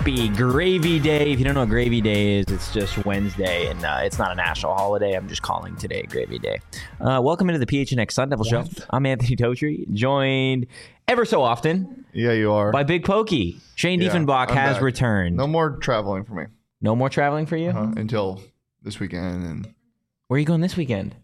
Happy Gravy Day. If you don't know what Gravy Day is, it's just Wednesday, and it's not a national holiday. I'm just calling today Gravy Day. Welcome into the PHNX Sun Devil Show. I'm Anthony Totri, joined ever so often. Yeah, you are. By Big Pokey. Shane Diefenbach has back. returned. No more traveling for me. No more traveling for you? Until this weekend. And where are you going this weekend?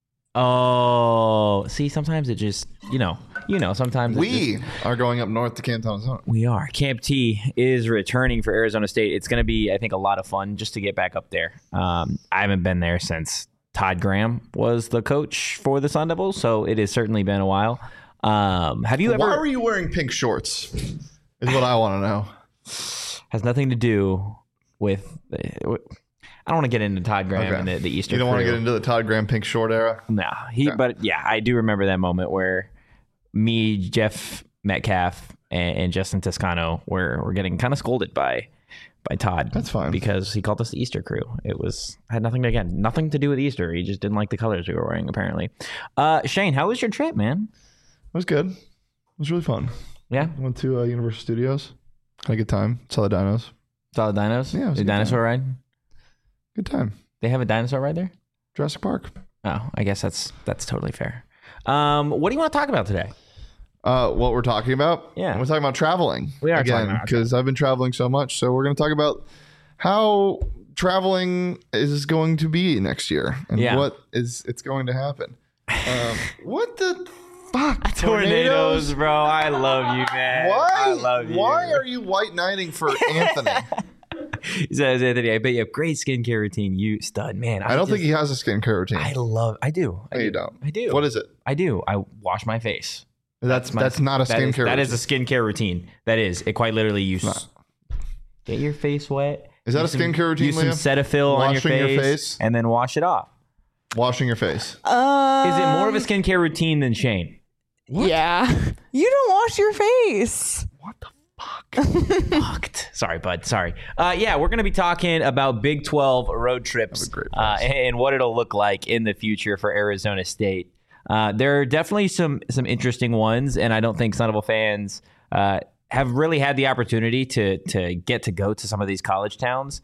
Oh, see, sometimes it just, sometimes we are going up north to Camp Thomas. We are. Camp T is returning for Arizona State. It's going to be, I think, a lot of fun just to get back up there. I haven't been there since Todd Graham was the coach for the Sun Devils, so it has certainly been a while. Have you ever? Why were you wearing pink shorts? Is what I want to know. Has nothing to do with. I don't want to get into Todd Graham and the Easter. You don't crew. want to get into the Todd Graham pink short era? No, But yeah, I do remember that moment where me, Jeff Metcalf, and Justin Toscano were getting kind of scolded by Todd. That's fine, because he called us the Easter crew. It had nothing to do with Easter. He just didn't like the colors we were wearing, apparently. Shane, how was your trip, man? It was good. It was really fun. Yeah, went to Universal Studios. Had a good time. Saw the dinos. Saw the dinos. Yeah, it was the dinosaur ride. Good time. They have a dinosaur ride there? Jurassic Park. Oh, I guess that's totally fair. What do you want to talk about today? What we're talking about? Yeah. We're talking about traveling. We are again, talking about because I've been traveling so much. So we're going to talk about how traveling is going to be next year and what it's going to happen. What the fuck? Tornadoes, bro. I love you, man. Why? I love you. Why are you white knighting for Anthony? He says, Anthony, I bet you have great skincare routine. You stud, man. I don't think he has a skincare routine. I do. No, you don't. I do. What is it? I do. I wash my face. That's not a skincare routine. That is a skincare routine. That is. It quite literally get your face wet. Is that a skincare routine, Use some Cetaphil on your face and then wash it off. Washing your face. Is it more of a skincare routine than Shane? What? Yeah. You don't wash your face. What the fuck? Fucked. Sorry, bud. Sorry. Yeah, we're going to be talking about Big 12 road trips and what it'll look like in the future for Arizona State. There are definitely some interesting ones, and I don't think Sun Devil fans have really had the opportunity to get to go to some of these college towns.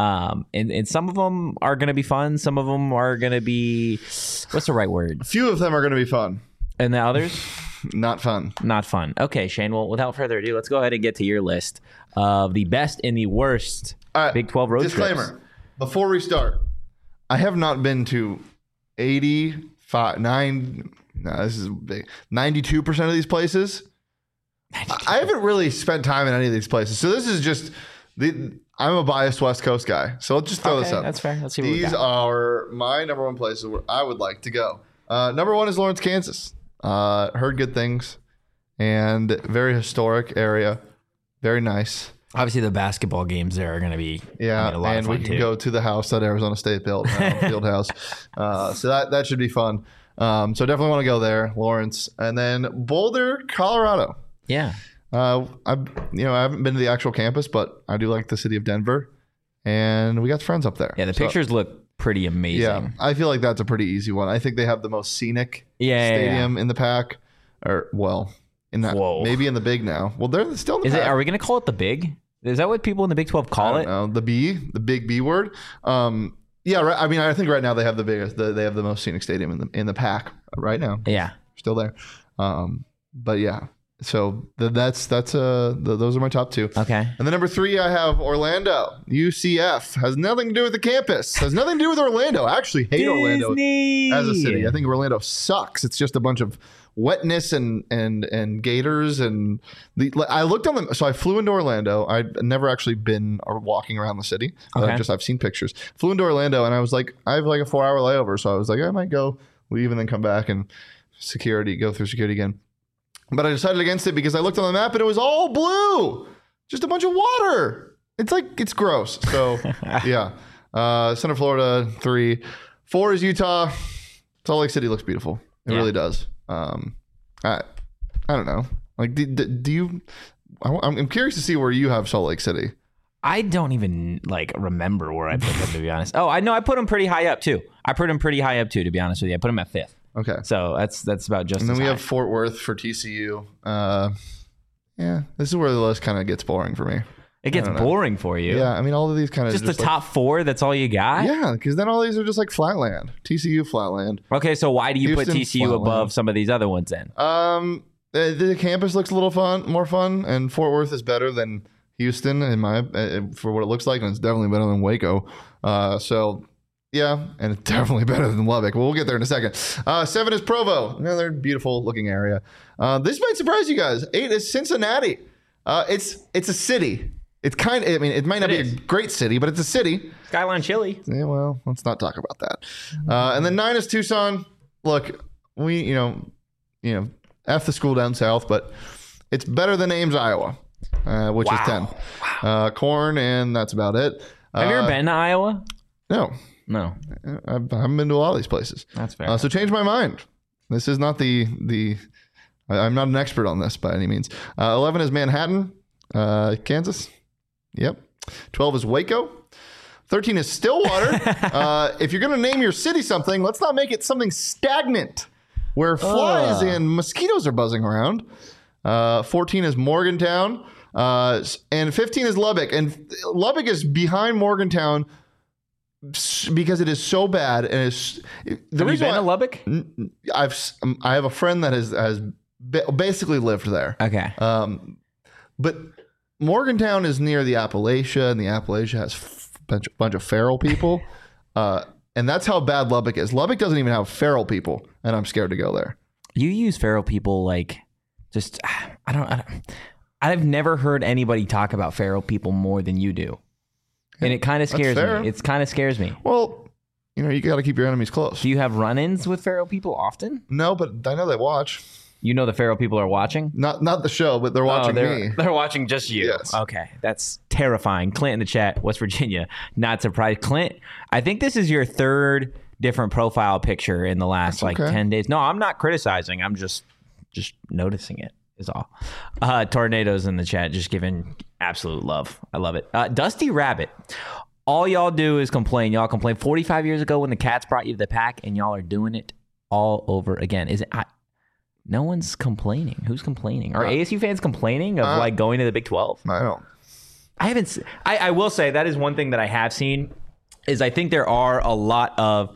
And some of them are going to be fun. Some of them are going to be, what's the right word? A few of them are going to be fun. And the others? Not fun. Not fun. Okay, Shane. Well, without further ado, let's go ahead and get to your list of the best and the worst Big 12 road trips. Disclaimer. Before we start, I have not been to 92% of these places. 92. I haven't really spent time in any of these places. So this is just I'm a biased West Coast guy. So let's just throw this up. That's fair. Let's see what these are my number one places where I would like to go. Number one is Lawrence, Kansas. Heard good things, and very historic area, very nice. Obviously, the basketball games there are going to be a lot of fun. We can go to the house that Arizona State built, field house. So that should be fun. So definitely want to go there, Lawrence, and then Boulder, Colorado. Yeah. I haven't been to the actual campus, but I do like the city of Denver, and we got friends up there. Yeah, the pictures look pretty amazing. Yeah, I feel like that's a pretty easy one. I think they have the most scenic stadium in the pack, maybe in the Big now. Well, they're still in the pack. Are we going to call it the Big? Is that what people in the Big 12 call it? No, the big B word. Yeah, right. I mean, I think right now they have the biggest. They have the most scenic stadium in the pack right now. Yeah, still there. But yeah. So those are my top two. Okay. And then number three, I have Orlando. UCF has nothing to do with the campus. Has nothing to do with Orlando. I actually hate Orlando as a city. I think Orlando sucks. It's just a bunch of wetness and gators and I looked on them. So I flew into Orlando. I'd never actually been or walking around the city. I've seen pictures. Flew into Orlando and I was like, I have like a 4-hour layover. So I was like, I might go leave and then come back and go through security again. But I decided against it because I looked on the map and it was all blue. Just a bunch of water. It's gross. So, yeah. Central Florida, 3. 4 is Utah. Salt Lake City looks beautiful. It really does. I don't know. Like, do you... I'm curious to see where you have Salt Lake City. I don't even remember where I put them, to be honest. Oh, I know. I put them pretty high up too. To be honest with you. I put them at 5th. Okay. So that's about just. And then we high. have Fort Worth for TCU. Yeah, this is where the list kind of gets boring for me. It gets boring for you. Yeah, I mean, all of these kind of just the top 4. That's all you got. Yeah, because then all these are just like flatland. TCU flatland. Okay, so why do you Houston, put TCU flatland. above some of these other ones then? The campus looks a little more fun, and Fort Worth is better than Houston for what it looks like, and it's definitely better than Waco. So yeah, and it's definitely better than Lubbock. Well, we'll get there in a second. 7 is Provo, another beautiful looking area. This might surprise you guys. 8 is Cincinnati. It's a city. It's kind of, I mean, it might not be a great city, but it's a city. Skyline Chili. Yeah, well, let's not talk about that. And then 9 is Tucson. Look, we, F the school down south, but it's better than Ames, Iowa, which is 10. Wow. Corn, and that's about it. Have you ever been to Iowa? No. I haven't been to a lot of these places. That's fair. So change my mind. This is not I'm not an expert on this by any means. 11 is Manhattan, Kansas. Yep. 12 is Waco. 13 is Stillwater. If you're going to name your city something, let's not make it something stagnant where flies and mosquitoes are buzzing around. 14 is Morgantown. And 15 is Lubbock. And Lubbock is behind Morgantown because it is so bad. And have you been to Lubbock? I have a friend that has basically lived there. Okay. But Morgantown is near the Appalachia, and the Appalachia has a bunch of feral people. And that's how bad Lubbock is. Lubbock doesn't even have feral people, and I'm scared to go there. You use feral people like just, I've never heard anybody talk about feral people more than you do. And it kind of scares me. It kind of scares me. Well, you got to keep your enemies close. Do you have run-ins with feral people often? No, but I know they watch. You know the feral people are watching? Not the show, but they're watching me. They're watching just you. Yes. Okay. That's terrifying. Clint in the chat, West Virginia. Not surprised. Clint, I think this is your 3rd different profile picture in the last 10 days. No, I'm not criticizing. I'm just noticing it is all. Tornadoes in the chat, just giving absolute love. I love it. Dusty Rabbit. All y'all do is complain. Y'all complained 45 years ago when the Cats brought you to the pack, and y'all are doing it all over again. Is it? No one's complaining. Who's complaining? Are ASU fans complaining of going to the Big 12? I don't. I haven't. I will say that is one thing that I have seen is I think there are a lot of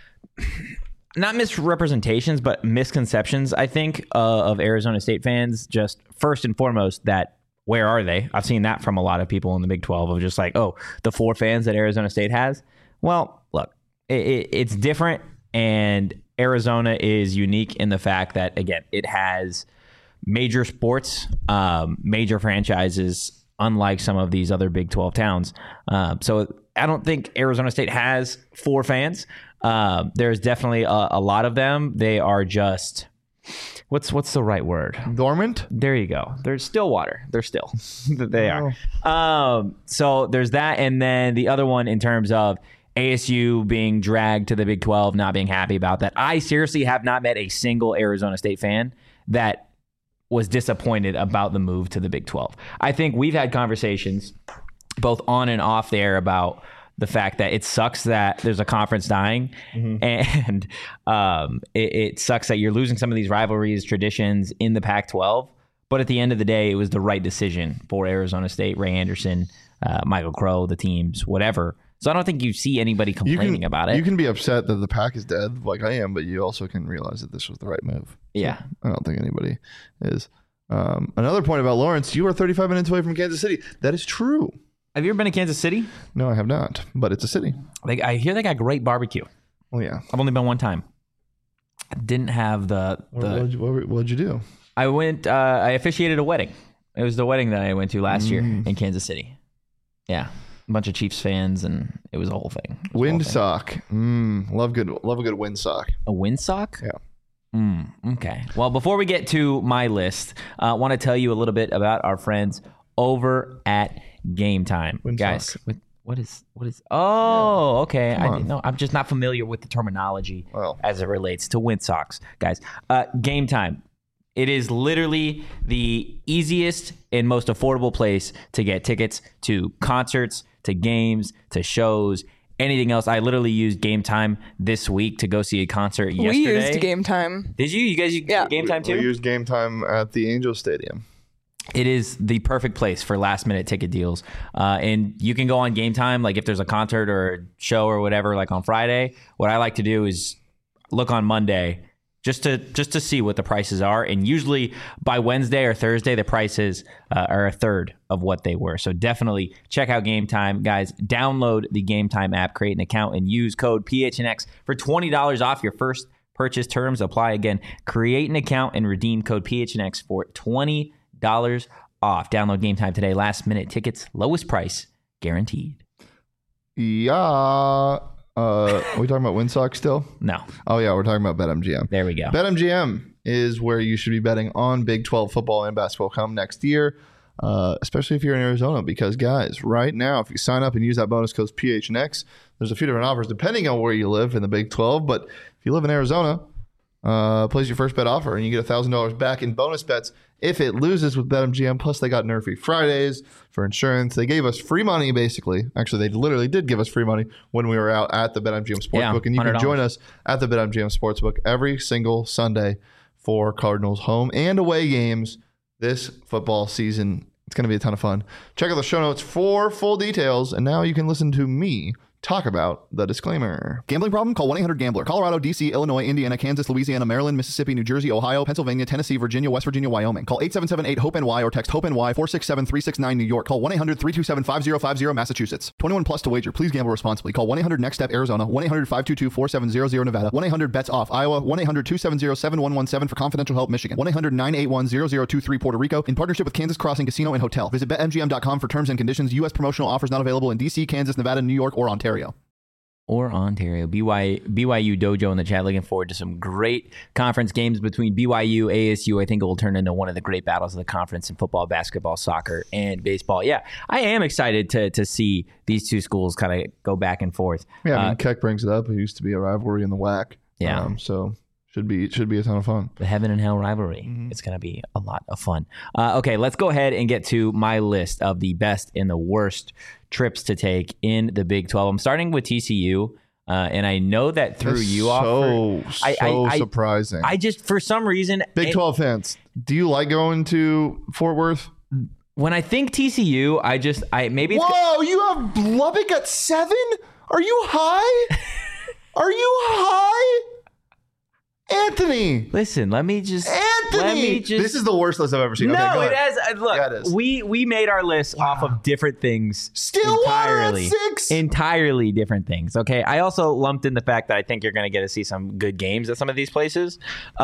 not misrepresentations, but misconceptions, I think, of Arizona State fans. Just first and foremost, that where are they? I've seen that from a lot of people in the Big 12 of just like, oh, the 4 fans that Arizona State has. Well, look, it's different, and Arizona is unique in the fact that, again, it has major sports, major franchises, unlike some of these other Big 12 towns. So I don't think Arizona State has 4 fans. There's definitely a lot of them. They are just, what's the right word? Dormant? There you go. They're Stillwater. They're still. They are. So there's that. And then the other one in terms of ASU being dragged to the Big 12, not being happy about that. I seriously have not met a single Arizona State fan that was disappointed about the move to the Big 12. I think we've had conversations both on and off there about the fact that it sucks that there's a conference dying, and it sucks that you're losing some of these rivalries, traditions in the Pac-12. But at the end of the day, it was the right decision for Arizona State, Ray Anderson, Michael Crow, the teams, whatever. So I don't think you see anybody complaining about it. You can be upset that the Pac is dead, like I am, but you also can realize that this was the right move. Yeah. So I don't think anybody is. Another point about Lawrence, you are 35 minutes away from Kansas City. That is true. Have you ever been to Kansas City? No, I have not, but it's a city. I hear they got great barbecue. Well, yeah. I've only been one time. I didn't have What'd you do? I went, I officiated a wedding. It was the wedding that I went to last year in Kansas City. Yeah. A bunch of Chiefs fans, and it was a whole thing. Windsock. Love a good windsock. A windsock? Yeah. Okay. Well, before we get to my list, I want to tell you a little bit about our friends over at Game Time. Windsock. Guys, what is? Oh, okay. I didn't know. I'm just not familiar with the terminology as it relates to windsocks. Guys, Game Time. It is literally the easiest and most affordable place to get tickets to concerts, to games, to shows, anything else. I literally used Game Time this week to go see a concert yesterday. We used Game Time. Did you? You guys use Game Time too? We used Game Time at the Angel Stadium. it is the perfect place for last minute ticket deals. And you can go on Game Time, like if there's a concert or a show or whatever, like on Friday. What I like to do is look on Monday just to see what the prices are. And usually by Wednesday or Thursday, the prices are a third of what they were. So definitely check out Game Time. Guys, download the Game Time app, create an account, and use code PHNX for $20 off your first purchase. Terms apply. Again, create an account and redeem code PHNX for $20 off. Download Game Time today. Last minute tickets, lowest price guaranteed. Yeah. Are we talking about WinSock still? No. Oh yeah, we're talking about BetMGM. There we go. BetMGM is where you should be betting on Big 12 football and basketball come next year, especially if you're in Arizona. Because guys, right now, if you sign up and use that bonus code PHNX, there's a few different offers depending on where you live in the Big 12. But if you live in Arizona, place your first bet offer and you get $1,000 back in bonus bets if it loses with BetMGM. Plus, they got Nerfy Fridays for insurance. They gave us free money, basically. Actually, they literally did give us free money when we were out at the BetMGM Sportsbook. And you can join us at the BetMGM Sportsbook every single Sunday for Cardinals home and away games this football season. It's going to be a ton of fun. Check out the show notes for full details. And now you can listen to me talk about the disclaimer. Gambling problem? Call 1-800-GAMBLER. Colorado, D.C., Illinois, Indiana, Kansas, Louisiana, Maryland, Mississippi, New Jersey, Ohio, Pennsylvania, Tennessee, Virginia, West Virginia, Wyoming. Call 877-8-HOPE-NY or text HOPE-NY 467-369 New York. Call 1-800-327-5050 Massachusetts. 21 plus to wager. Please gamble responsibly. Call 1-800-NEXT-STEP Arizona. 1-800-522-4700 Nevada. 1-800-BETS-OFF Iowa. 1-800-270-7117 for confidential help Michigan. 1-800-981-0023 Puerto Rico in partnership with Kansas Crossing Casino and Hotel. Visit BetMGM.com for terms and conditions. U.S. promotional offers not available in D.C., Kansas, Nevada, New York, or Ontario. BYU Dojo in the chat. Looking forward to some great conference games between BYU, ASU. I think it will turn into one of the great battles of the conference in football, basketball, soccer, and baseball. Yeah, I am excited to see these two schools kind of go back and forth. Yeah, I mean, Keck brings it up. It used to be a rivalry in the WAC. Yeah. So should be a ton of fun. The heaven and hell rivalry. Mm-hmm. It's going to be a lot of fun. Okay, let's go ahead and get to my list of the best and the worst trips to take in the Big 12. I'm starting with TCU, and I know that threw you off. So surprising. I just, for some reason... Big 12 fans, do you like going to Fort Worth? When I think TCU, maybe... Whoa, you have Lubbock at 7? Are you high? Are you high? Anthony, listen. Let me just. This is the worst list I've ever seen. No, okay, it has. Look, yeah, it is. We made our list off of different things. Stillwater at 6. Entirely different things. Okay. I also lumped in the fact that I think you're going to get to see some good games at some of these places.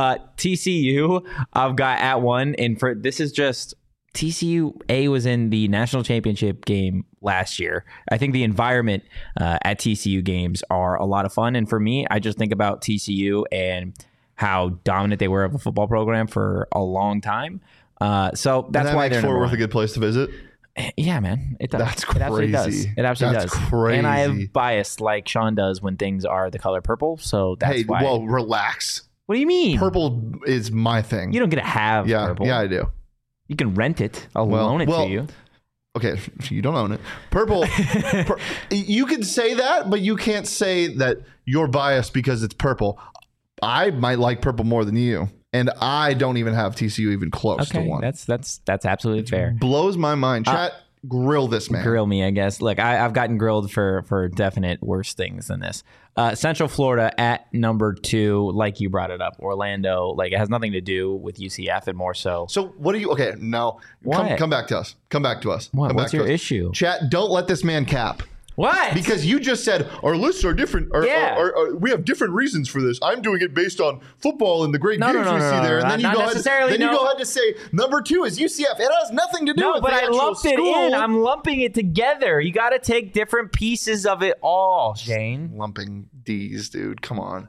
TCU, I've got at 1, and for this is just. TCU was in the national championship game last year. I think the environment at TCU games are a lot of fun. And for me, I just think about TCU and how dominant they were of a football program for a long time. So that's why they're Fort Worth a good place to visit. Yeah, man. It does. That's crazy. It absolutely does. It absolutely does. Crazy. And I have bias like Sean does when things are the color purple. So that's why. Well, relax. What do you mean? Purple is my thing. You don't get to have purple. Yeah, I do. You can rent it. I'll loan it to you. Okay, you don't own it. Purple. You can say that, but you can't say that you're biased because it's purple. I might like purple more than you, and I don't even have TCU even close to 1. That's absolutely fair. Blows my mind. Chat, grill this man. Grill me, I guess. Look, I've gotten grilled for definite worse things than this. Central Florida at number 2, like you brought it up. Orlando, like it has nothing to do with UCF and more so. So what do you? Okay, no, come back to us. Come back to us. What's your issue? Chat, don't let this man cap. What? Because you just said our lists are different. We have different reasons for this. I'm doing it based on football and the great games we see there. And then you go ahead to say number 2 is UCF. It has nothing to do with but the I lumped it school. in. I'm lumping it together. You got to take different pieces of it all, Shane. Lumping D's, dude. Come on.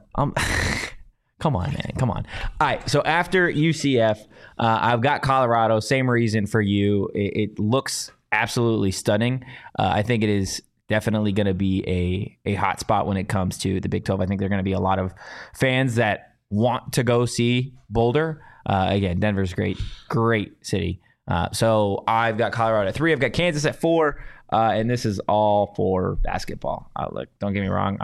Come on, man. Come on. All right. So after UCF, I've got Colorado. Same reason for you. It looks absolutely stunning. I think it is definitely going to be a hot spot when it comes to the Big 12. I think there are going to be a lot of fans that want to go see Boulder. Again, Denver's great city. So I've got Colorado at 3. I've got Kansas at 4. And this is all for basketball. Look, don't get me wrong.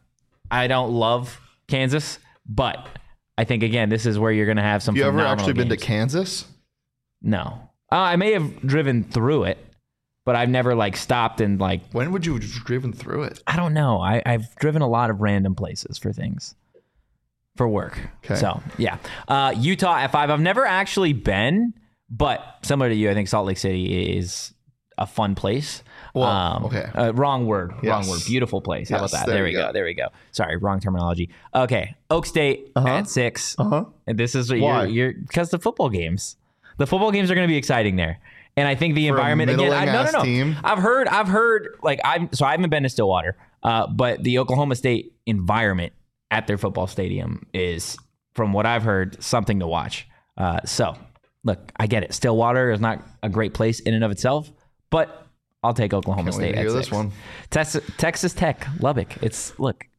I don't love Kansas, but I think, again, this is where you're going to have some phenomenal games. You ever actually been to Kansas? No. I may have driven through it, but I've never like stopped and like. When would you have driven through it? I don't know. I've driven a lot of random places for things. For work. Okay. So, yeah. Utah at 5. I've never actually been, but similar to you, I think Salt Lake City is a fun place. Well, okay. Wrong word. Yes. Wrong word. Beautiful place. How Yes, about that? there There we you go. go. There we go. Sorry, wrong terminology. Okay. Oak State at 6. And this is what Why? you're because the football games. The football games are going to be exciting there. And I think the environment again. No. Team. I've heard like I haven't been to Stillwater, but the Oklahoma State environment at their football stadium is, from what I've heard, something to watch. So, look, I get it. Stillwater is not a great place in and of itself, but I'll take Oklahoma State at 6. This one. Texas Tech, Lubbock. It's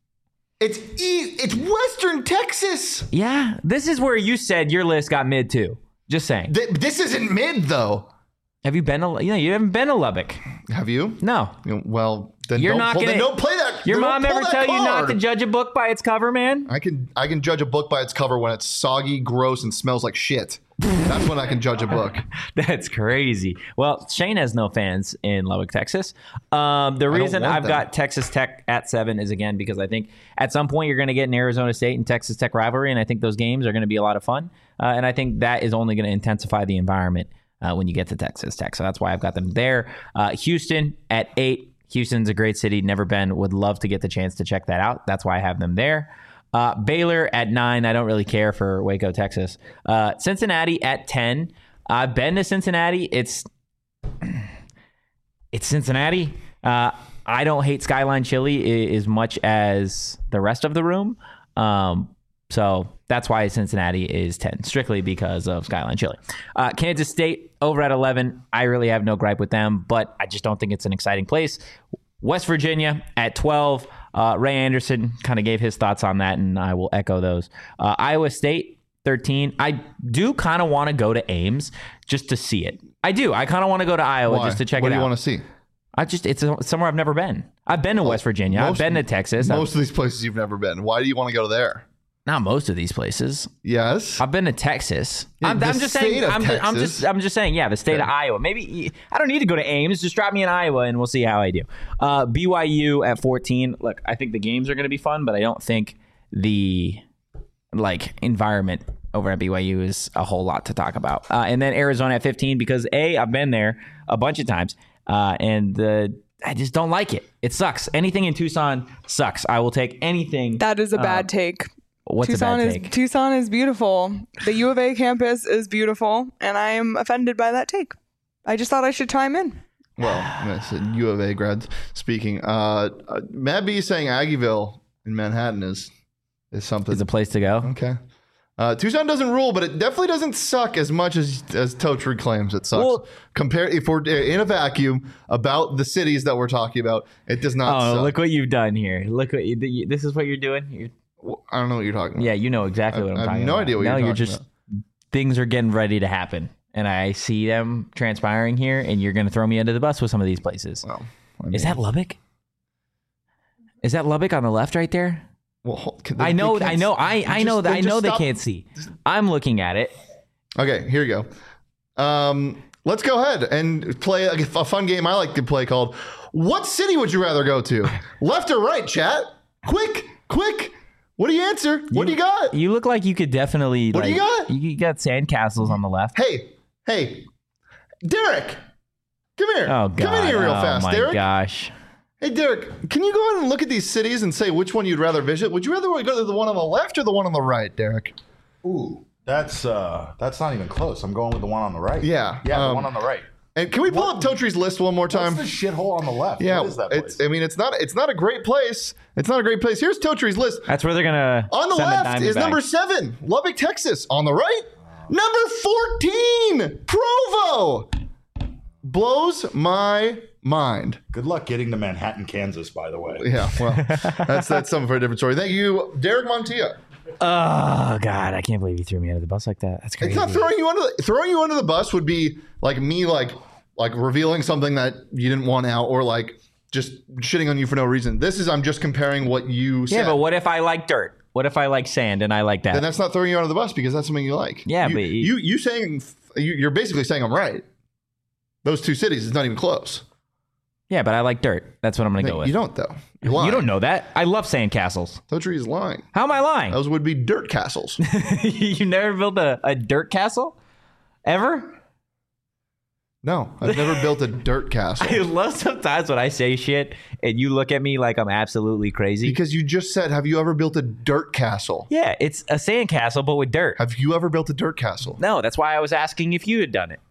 Western Texas. yeah. This is where you said your list got mid too. Just saying. This isn't mid though. Have you been to? You haven't been to Lubbock. Have you? No. Well, then You're don't not pull, gonna. then don't play that. Your then mom don't pull ever that tell you not card. to judge a book by its cover, man? I can judge a book by its cover when it's soggy, gross, and smells like shit. That's when I can judge a book. That's crazy. Well, Shane has no fans in Lubbock, Texas. The reason want I've them. got Texas Tech at 7 is, again, because I think at some point you're going to get an Arizona State and Texas Tech rivalry, and I think those games are going to be a lot of fun. And I think that is only going to intensify the environment when you get to Texas Tech. So that's why I've got them there. Houston at 8. Houston's a great city. Never been. Would love to get the chance to check that out. That's why I have them there. Baylor at 9. I don't really care for Waco, Texas. Cincinnati at 10. I've been to Cincinnati. It's Cincinnati. I don't hate Skyline Chili as much as the rest of the room. So that's why Cincinnati is 10, strictly because of Skyline Chili. Kansas State over at 11. I really have no gripe with them, but I just don't think it's an exciting place. West Virginia at 12. Ray Anderson kind of gave his thoughts on that, and I will echo those. Iowa State, 13. I do kind of want to go to Ames just to see it. I do. I kind of want to go to Iowa just to check it out. What do you want to see? It's somewhere I've never been. I've been to West Virginia. I've been to Texas. Most of these places you've never been. Why do you want to go there? Not most of these places. Yes. I've been to Texas. Yeah, I'm just saying. I'm just saying. Yeah, the state of Iowa. Maybe I don't need to go to Ames. Just drop me in Iowa, and we'll see how I do. BYU at 14. Look, I think the games are going to be fun, but I don't think the environment over at BYU is a whole lot to talk about. And then Arizona at 15 because I've been there a bunch of times, and I just don't like it. It sucks. Anything in Tucson sucks. I will take anything. That is a bad take. What's Tucson a bad take? Tucson is beautiful. The U of A campus is beautiful, and I am offended by that take. I just thought I should chime in. Well, U of A grads speaking. Matt B saying Aggieville in Manhattan is something. It's a place to go. Okay. Tucson doesn't rule, but it definitely doesn't suck as much as Totri claims it sucks. Well, if we're in a vacuum about the cities that we're talking about, it does not suck. Look what you've done here. Look what this is what you're doing. I don't know what you're talking about. Yeah, you know exactly what I'm talking about. I have no idea what you're talking about. Things are getting ready to happen, and I see them transpiring here, and you're going to throw me under the bus with some of these places. Well, is that Lubbock? Is that Lubbock on the left right there? Well, I know they can't see. I'm looking at it. Okay, here you go. Let's go ahead and play a fun game I like to play called What City Would You Rather Go To? Left or right, chat? Quick. What do you answer? What do you got? You look like you could definitely. What do you got? You got sandcastles on the left. Hey, Derek, come here. Oh, God. Come in here real fast, my Derek. Gosh. Hey, Derek, can you go ahead and look at these cities and say which one you'd rather visit? Would you rather go to the one on the left or the one on the right, Derek? Ooh, that's not even close. I'm going with the one on the right. Yeah. The one on the right. And can we pull up Totri's list one more time? What's the shithole on the left? Yeah, what is that place? it's not a great place. It's not a great place. Here's Totri's list. That's where they're gonna. On the send left is number 7, Lubbock, Texas. On the right, number 14, Provo. Blows my mind. Good luck getting to Manhattan, Kansas, by the way. Yeah, well, that's something for a different story. Thank you, Derek Montilla. Oh God, I can't believe you threw me under the bus like that. That's crazy. It's not throwing you under the bus would be like me like revealing something that you didn't want out or like just shitting on you for no reason. I'm just comparing what you said. Yeah, but what if I like dirt? What if I like sand and I like that? Then that's not throwing you under the bus because that's something you like. Yeah, you're basically saying I'm right. Those two cities is not even close. Yeah, but I like dirt. That's what I'm going to go with. You don't, though. You're lying. You don't know that. I love sandcastles. Totri is lying. How am I lying? Those would be dirt castles. You never built a dirt castle? Ever? No, I've never built a dirt castle. I love sometimes when I say shit and you look at me like I'm absolutely crazy. Because you just said, have you ever built a dirt castle? Yeah, it's a sand castle, but with dirt. Have you ever built a dirt castle? No, that's why I was asking if you had done it.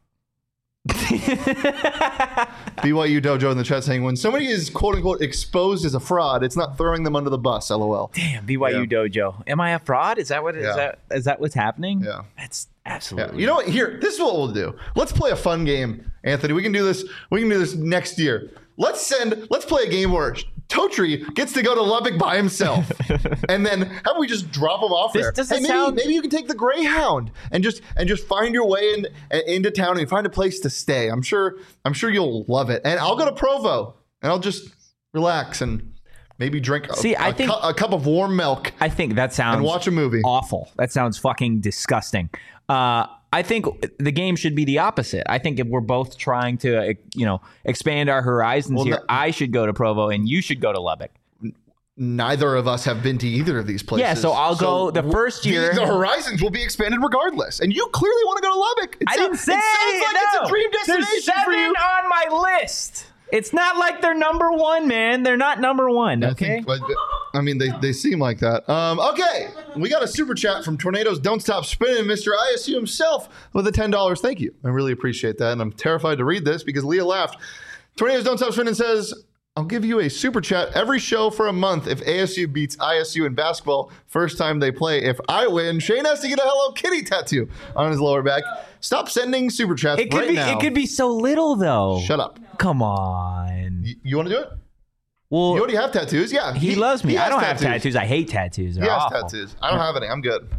BYU Dojo in the chat saying, when somebody is quote unquote exposed as a fraud, it's not throwing them under the bus. LOL. Damn, BYU Dojo. Am I a fraud? Is that what is that what's happening? Yeah. That's absolutely. Yeah. You know what? Here, this is what we'll do. Let's play a fun game, Anthony. We can do this. We can do this next year. Let's play a game where Totri gets to go to Lubbock by himself, and then how we just drop him off there? Maybe you can take the Greyhound and just find your way into town and find a place to stay. I'm sure you'll love it. And I'll go to Provo and I'll just relax and maybe drink a cup of warm milk. I think that sounds and watch a movie. Awful. That sounds fucking disgusting. I think the game should be the opposite. I think if we're both trying to, expand our horizons here, I should go to Provo and you should go to Lubbock. Neither of us have been to either of these places. Yeah, so I'll go the first year. The horizons will be expanded regardless. And you clearly want to go to Lubbock. I didn't say it sounds like it's a dream destination There's 7 for you. on my list. It's not like they're number one, man. They're not number one, okay? They seem like that. Okay, we got a super chat from Tornadoes Don't Stop Spinning, Mr. ISU himself with a $10. Thank you. I really appreciate that, and I'm terrified to read this because Leah laughed. Tornadoes Don't Stop Spinning says, I'll give you a super chat every show for a month if ASU beats ISU in basketball first time they play. If I win, Shane has to get a Hello Kitty tattoo on his lower back. Stop sending super chats now. It could be so little, though. Shut up. Come on. You want to do it? Well, you already have tattoos. Yeah. He loves me. I don't have tattoos. I hate tattoos. He has tattoos. I don't have any. I'm good.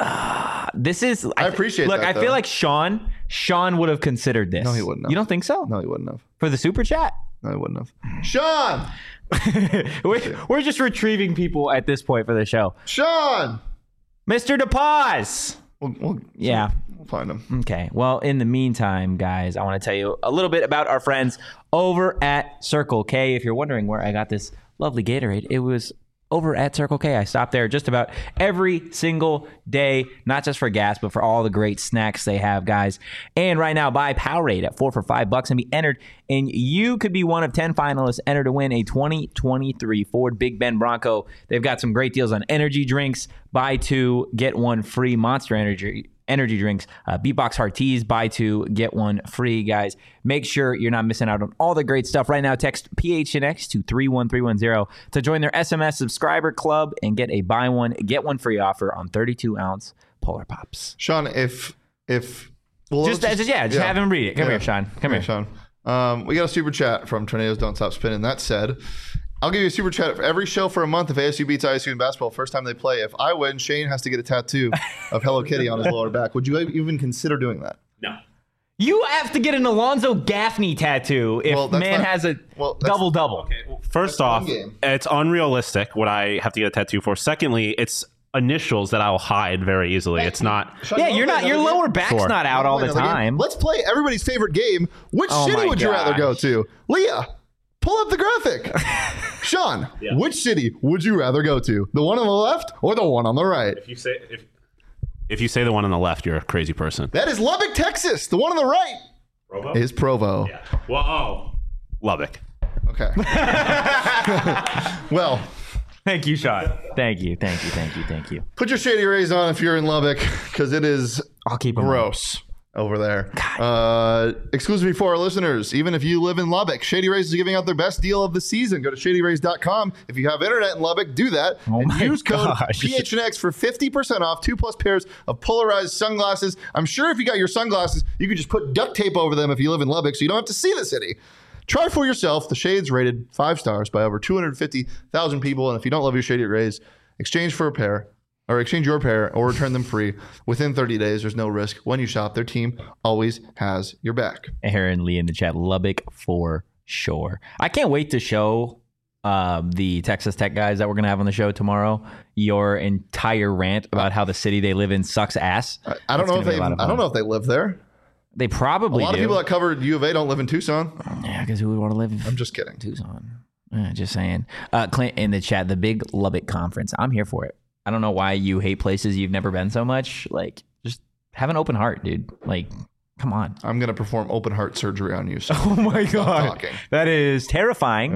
I appreciate that. Look, I though. feel like Sean would have considered this. No, he wouldn't have. You don't think so? No, he wouldn't have. For the super chat? No, he wouldn't have. Sean! We're just retrieving people at this point for the show. Sean! Mr. DePaz! We'll find him. Okay. Well, in the meantime, guys, I want to tell you a little bit about our friends over at Circle K. If you're wondering where I got this lovely Gatorade, it was over at Circle K. I stop there just about every single day, not just for gas, but for all the great snacks they have, guys. And right now, buy Powerade at 4 for $5 and be entered, and you could be one of 10 finalists entered to win a 2023 Ford Big Bend Bronco. They've got some great deals on energy drinks. Buy 2, get 1 free Monster Energy drinks, Beatbox Heart Teas, buy 2, get 1 free, guys. Make sure you're not missing out on all the great stuff. Right now, text PHNX to 31310 to join their SMS subscriber club and get a buy 1, get 1 free offer on 32-ounce Polar Pops. Sean, just have him read it. Come here, Sean. Come here, Sean. We got a super chat from Tornadoes Don't Stop Spinning. That said, I'll give you a super chat for every show for a month if ASU beats ISU in basketball first time they play. If I win, Shane has to get a tattoo of Hello Kitty on his lower back. Would you even consider doing that? No. You have to get an Alonzo Gaffney tattoo if has a double-double. Okay, well, first off, it's unrealistic what I have to get a tattoo for. Secondly, it's initials that I'll hide very easily. It's not. Yeah, your lower back's not out all the time. Let's play everybody's favorite game. Which city would you rather go to? Leah, pull up the graphic. Sean, which city would you rather go to? The one on the left or the one on the right? If you say the one on the left, you're a crazy person. That is Lubbock, Texas. The one on the right is Provo. Yeah. Well, Lubbock. Okay. Well, thank you, Sean. Thank you. Put your Shady Rays on if you're in Lubbock, because it is I'll keep them gross over there. Exclusively for our listeners, even if you live in Lubbock, Shady Rays is giving out their best deal of the season. Go to shadyrays.com. If you have internet in Lubbock, do that. And use code PHNX for 50% off 2+ pairs of polarized sunglasses. I'm sure if you got your sunglasses, you could just put duct tape over them if you live in Lubbock so you don't have to see the city. Try for yourself. The Shades rated 5 stars by over 250,000 people. And if you don't love your Shady Rays, exchange your pair or return them free within 30 days. There's no risk. When you shop, their team always has your back. Aaron Lee in the chat, Lubbock for sure. I can't wait to show the Texas Tech guys that we're going to have on the show tomorrow your entire rant about how the city they live in sucks ass. I don't know if they live there. They probably A lot do. of people that covered U of A don't live in Tucson. Yeah, because who would want to live in I'm just kidding. Tucson? Just saying. Clint in the chat, the big Lubbock conference. I'm here for it. I don't know why you hate places you've never been so much. Like, just have an open heart, dude. Like, come on. I'm going to perform open heart surgery on you. So Oh my stop God. talking. That is terrifying.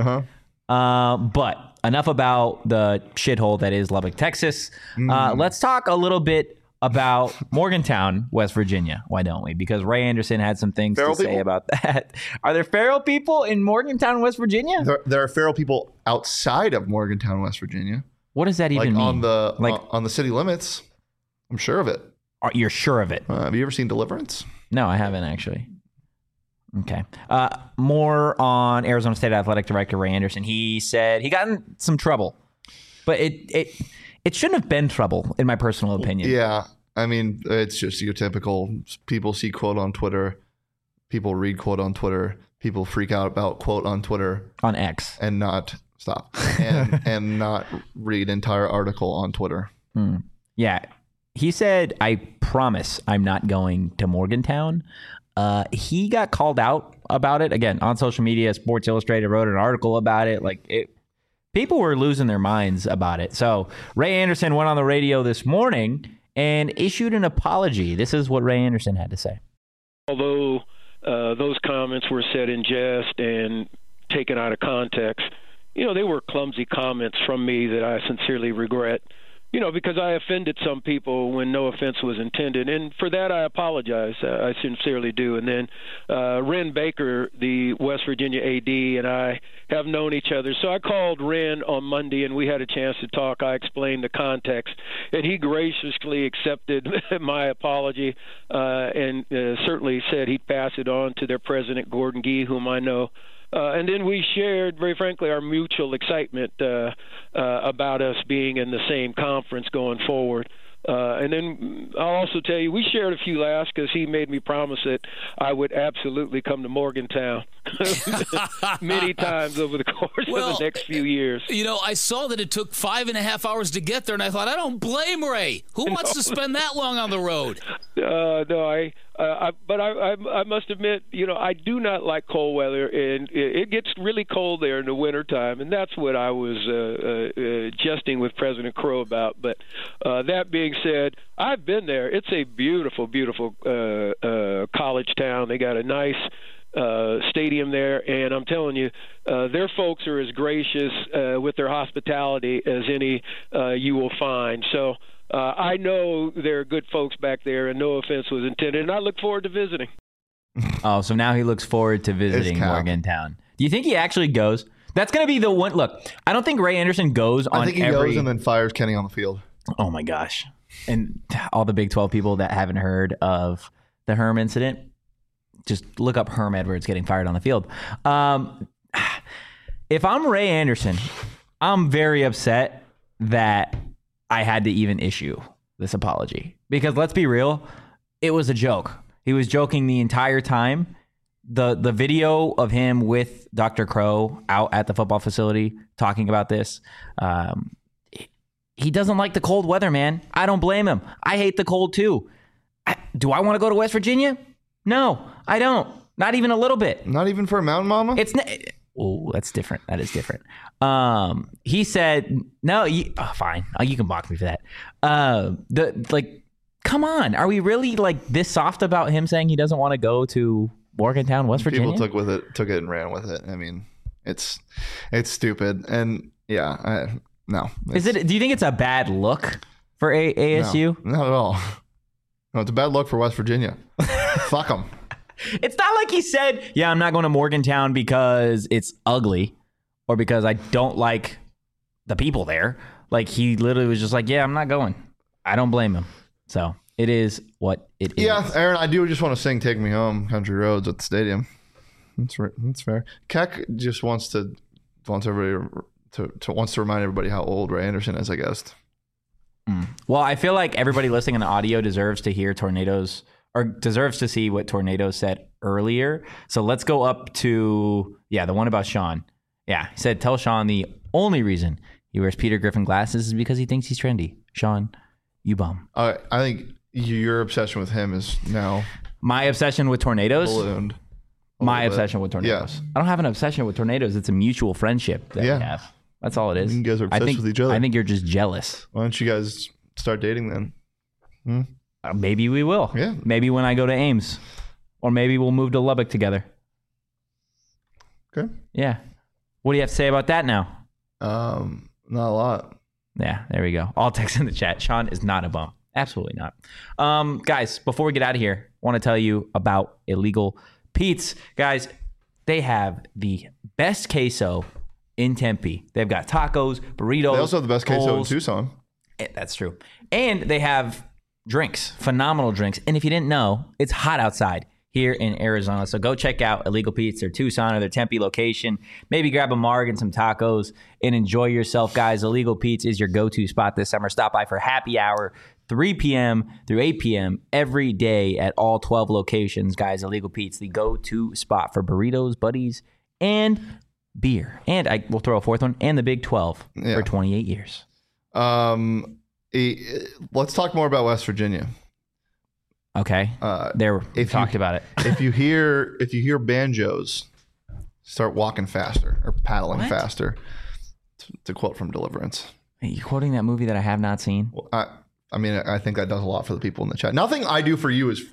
But enough about the shithole that is Lubbock, Texas. Let's talk a little bit about Morgantown, West Virginia. Why don't we? Because Ray Anderson had some things Feral to say people? about that. Are there feral people in Morgantown, West Virginia? There are feral people outside of Morgantown, West Virginia. What does that even mean? On the city limits. I'm sure of it. You're sure of it? Have you ever seen Deliverance? No, I haven't actually. Okay. More on Arizona State Athletic Director Ray Anderson. He said he got in some trouble, but it shouldn't have been trouble, in my personal opinion. Yeah. I mean, it's just your typical people see quote on Twitter, people read quote on Twitter, people freak out about quote on Twitter. On X. And not and not read entire article on Twitter. Yeah. He said, I promise I'm not going to Morgantown. He got called out about it again on social media. Sports Illustrated wrote an article about it. People were losing their minds about it. So Ray Anderson went on the radio this morning and issued an apology. This is what Ray Anderson had to say. Although those comments were said in jest and taken out of context, they were clumsy comments from me that I sincerely regret. Because I offended some people when no offense was intended. And for that, I apologize. I sincerely do. And then Ren Baker, the West Virginia AD, and I have known each other. So I called Ren on Monday, and we had a chance to talk. I explained the context, and he graciously accepted my apology and certainly said he'd pass it on to their president, Gordon Gee, whom I know. And then we shared, very frankly, our mutual excitement about us being in the same conference going forward. And then I'll also tell you, we shared a few laughs because he made me promise that I would absolutely come to Morgantown many times over the course of the next few years. I saw that it took 5.5 hours to get there, and I thought, I don't blame Ray. Who wants to spend that long on the road? But I must admit, I do not like cold weather, and it gets really cold there in the wintertime, and that's what I was jesting with President Crow about. But that being said, I've been there. It's a beautiful, beautiful college town. They got a nice stadium there, and I'm telling you, their folks are as gracious with their hospitality as any you will find. So I know there are good folks back there, and no offense was intended, and I look forward to visiting. Oh, so now he looks forward to visiting Morgantown. Do you think he actually goes? That's going to be the one. Look, I don't think Ray Anderson goes on I think he goes and then fires Kenny on the field. Oh, my gosh. And all the Big 12 people that haven't heard of the Herm incident, just look up Herm Edwards getting fired on the field. If I'm Ray Anderson, I'm very upset that I had to even issue this apology. Because let's be real, it was a joke. He was joking the entire time. The video of him with Dr. Crow out at the football facility talking about this, he doesn't like the cold weather, man. I don't blame him. I hate the cold too. Do I want to go to West Virginia? No, I don't. Not even a little bit. Not even for a mountain mama? Oh, that's different. That is different. He said, no, fine. You can mock me for that. Come on. Are we really this soft about him saying he doesn't want to go to Morgantown, West Virginia? People took it and ran with it. I mean, it's stupid. And yeah, no. Do you think it's a bad look for ASU? No, not at all. No, it's a bad look for West Virginia. Fuck them. It's not like he said, yeah, I'm not going to Morgantown because it's ugly or because I don't like the people there. He literally was just like, yeah, I'm not going. I don't blame him. So it is what it is. Yeah, Aaron, I do just want to sing Take Me Home, Country Roads at the stadium. That's fair. Keck just wants to remind everybody how old Ray Anderson is, I guess. Well, I feel like everybody listening on the audio deserves to hear Tornadoes or deserves to see what Tornadoes said earlier. So let's go up to, the one about Sean. Yeah, he said, tell Sean the only reason he wears Peter Griffin glasses is because he thinks he's trendy. Sean, you bum. I think your obsession with him is now My obsession with tornadoes. ballooned. My obsession with tornadoes. Yeah. I don't have an obsession with tornadoes. Yeah. I don't have an obsession with tornadoes. It's a mutual friendship that Yeah. we have. That's all it is. You guys are obsessed with each other. I think you're just jealous. Why don't you guys start dating then? Maybe we will. Yeah. Maybe when I go to Ames. Or maybe we'll move to Lubbock together. Okay. Yeah. What do you have to say about that now? Not a lot. Yeah, there we go. All text in the chat. Sean is not a bum. Absolutely not. Guys, before we get out of here, I want to tell you about Illegal Pete's. Guys, they have the best queso in Tempe. They've got tacos, burritos. They also have the best queso in bowls. Tucson. That's true. And they have drinks, phenomenal drinks. And if you didn't know, it's hot outside here in Arizona. So go check out Illegal Pete's, their Tucson or their Tempe location. Maybe grab a marg and some tacos and enjoy yourself, guys. Illegal Pete's is your go-to spot this summer. Stop by for happy hour, 3 p.m. through 8 p.m. every day at all 12 locations, guys. Illegal Pete's, the go-to spot for burritos, buddies, and beer. And I will throw a fourth one, and the Big 12 for 28 years. Let's talk more about West Virginia. Okay. We talked about it. if you hear banjos, start walking faster or paddling faster. It's a quote from Deliverance. Are you quoting that movie that I have not seen? Well, I mean, I think that does a lot for the people in the chat. Nothing I do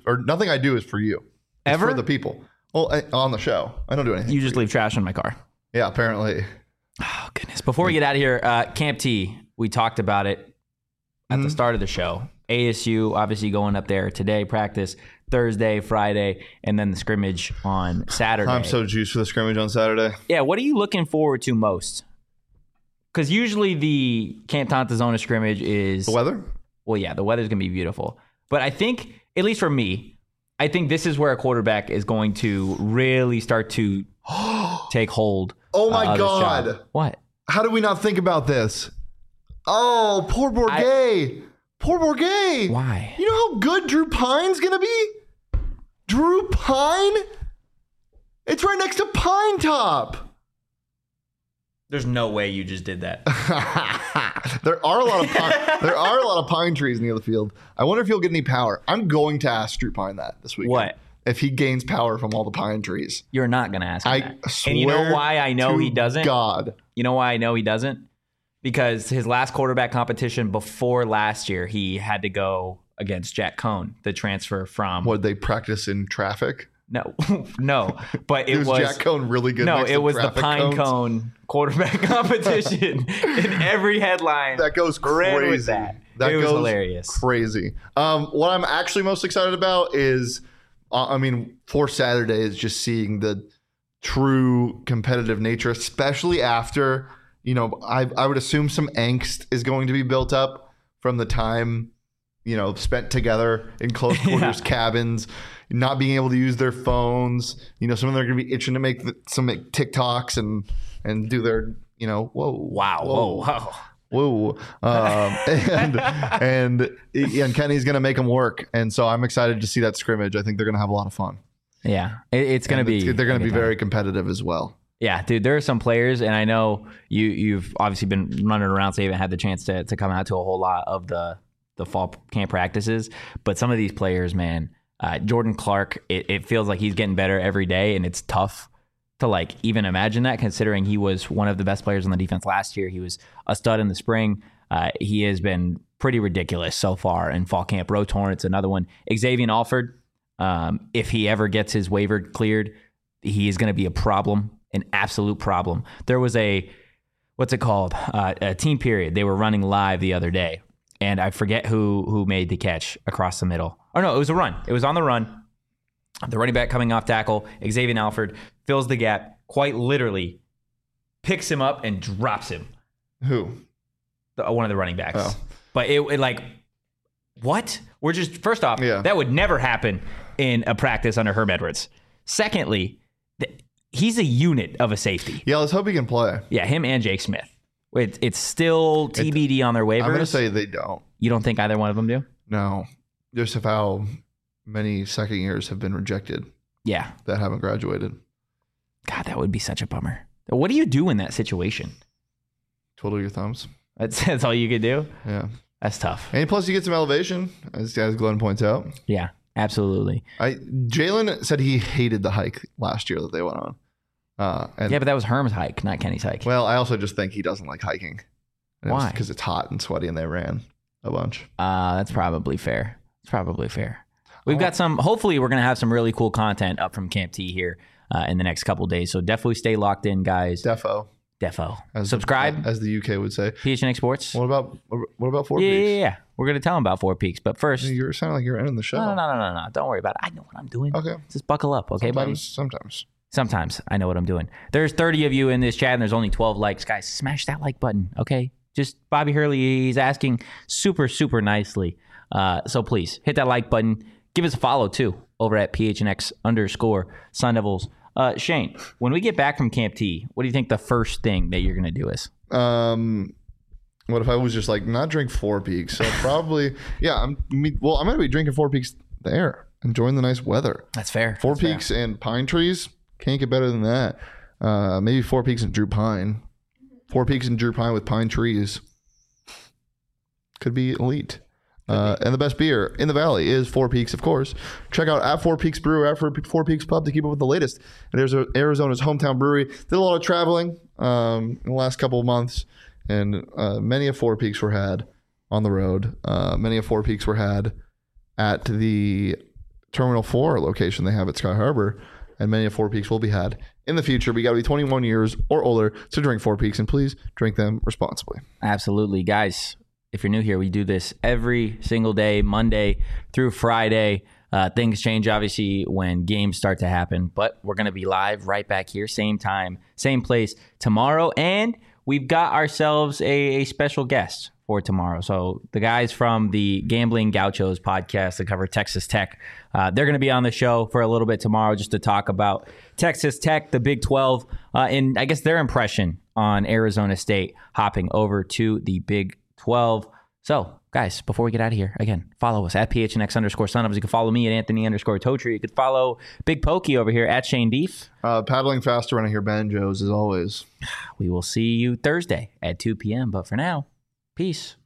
is for you. It's Ever? for the people. Well, on the show, I don't do anything. You just leave trash in my car. Yeah, apparently. Oh, goodness. Before we get out of here, Camp T, we talked about it at the start of the show. ASU obviously going up there today, practice Thursday, Friday, and then the scrimmage on Saturday. I'm so juiced for the scrimmage on Saturday. Yeah, what are you looking forward to most? Because usually the Camp Tantazona scrimmage is... The weather? Well, yeah, the weather's going to be beautiful. But I think, at least for me, I think this is where a quarterback is going to really start to take hold. Oh my of his God. job. What? How did we not think about this? Oh, poor Bourget. Poor Bourget. Why? You know how good Drew Pine's going to be? Drew Pine? It's right next to Pine Top. There's no way you just did that. There are a lot of pine trees near the field. I wonder if he'll get any power. I'm going to ask Drew Pine that this week. What? If he gains power from all the pine trees. You're not going to ask him I that. swear And you know why I know he doesn't? God. You know why I know he doesn't? Because his last quarterback competition before last year, he had to go against Jack Cohn, the transfer from... Would they practice in traffic? No, no. But it was Jack Cohn really good. No, next it to was the traffic Pine cones? Cone quarterback competition in every headline. That goes ran crazy. with that. That It was goes hilarious. Crazy. What I'm actually most excited about is, for Saturday is just seeing the true competitive nature, especially after, I would assume some angst is going to be built up from the time, spent together in close quarters cabins, not being able to use their phones. Some of them are going to be itching to make some TikToks and do their, whoa. And Kenny's going to make them work. And so I'm excited to see that scrimmage. I think they're going to have a lot of fun. Yeah, it's going to be. They're going to be very competitive as well. Yeah, dude, there are some players, and I know you've obviously been running around, so you haven't had the chance to come out to a whole lot of the fall camp practices. But some of these players, man, Jordan Clark, it feels like he's getting better every day, and it's tough to even imagine that, considering he was one of the best players on the defense last year. He was a stud in the spring. He has been pretty ridiculous so far in fall camp. Ro Torrance, another one. Xavier Alford, if he ever gets his waiver cleared, he is going to be a problem, an absolute problem. There was a team period. They were running live the other day, and I forget who made the catch across the middle. Oh, no, it was a run. It was on the run. The running back coming off tackle, Xavier Alford, fills the gap, quite literally picks him up and drops him. Who? One of the running backs. Oh. But what? We're just, first off, Yeah. that would never happen in a practice under Herm Edwards. Secondly, he's a unit of a safety. Yeah, let's hope he can play. Yeah, him and Jake Smith. It's still TBD on their waivers. I'm going to say they don't. You don't think either one of them do? No. Just of how many second years have been rejected Yeah. that haven't graduated. God, that would be such a bummer. What do you do in that situation? Twiddle your thumbs. That's all you could do? Yeah. That's tough. And plus you get some elevation, as Glenn points out. Yeah. Absolutely. Jalen said he hated the hike last year that they went on. Yeah, but that was Herm's hike, not Kenny's hike. Well, I also just think he doesn't like hiking. Why? Because it's hot and sweaty, and they ran a bunch. That's probably fair. We've got some. Hopefully, we're gonna have some really cool content up from Camp T here in the next couple days. So definitely stay locked in, guys. Defo. Subscribe, as the UK would say. PHNX Sports. What about Four Peaks? Peaks? Yeah. We're gonna tell them about Four Peaks, but first, You sound like you're ending the show. No. Don't worry about it. I know what I'm doing. Okay. Just buckle up, okay, buddy? Sometimes I know what I'm doing. There's 30 of you in this chat, and there's only 12 likes. Guys, smash that like button, okay? Just Bobby Hurley, he's asking super, super nicely. So please hit that like button. Give us a follow too over at PHNX_Sun Devils. Shane, when we get back from Camp T, what do you think the first thing that you're gonna do is? What if I was just like not drink Four Peaks? So probably, I'm gonna be drinking Four Peaks there, enjoying the nice weather. That's fair. Four Peaks and pine trees, can't get better than that. Maybe Four Peaks and Drew Pine. Four Peaks and Drew Pine with pine trees could be elite. And the best beer in the valley is Four Peaks, of course. Check out at Four Peaks Brew, at Four Peaks Pub to keep up with the latest. And there's Arizona's hometown brewery. Did a lot of traveling in the last couple of months, and many of Four Peaks were had on the road. Many of Four Peaks were had at the Terminal 4 location they have at Sky Harbor, and many of Four Peaks will be had in the future. We got to be 21 years or older to drink Four Peaks, and please drink them responsibly. Absolutely. Guys, if you're new here, we do this every single day, Monday through Friday. Things change, obviously, when games start to happen, but we're going to be live right back here, same time, same place tomorrow, and we've got ourselves a special guest for tomorrow. So the guys from the Gambling Gauchos podcast that cover Texas Tech, they're going to be on the show for a little bit tomorrow just to talk about Texas Tech, the Big 12, and I guess their impression on Arizona State hopping over to the Big 12. So, guys, before we get out of here, again, follow us at PHNX_Sun Devils. You can follow me at Anthony_Totri. You could follow Big Pokey over here at Shane Deef. Paddling faster when I hear banjos, as always. We will see you Thursday at 2 p.m. But for now, peace.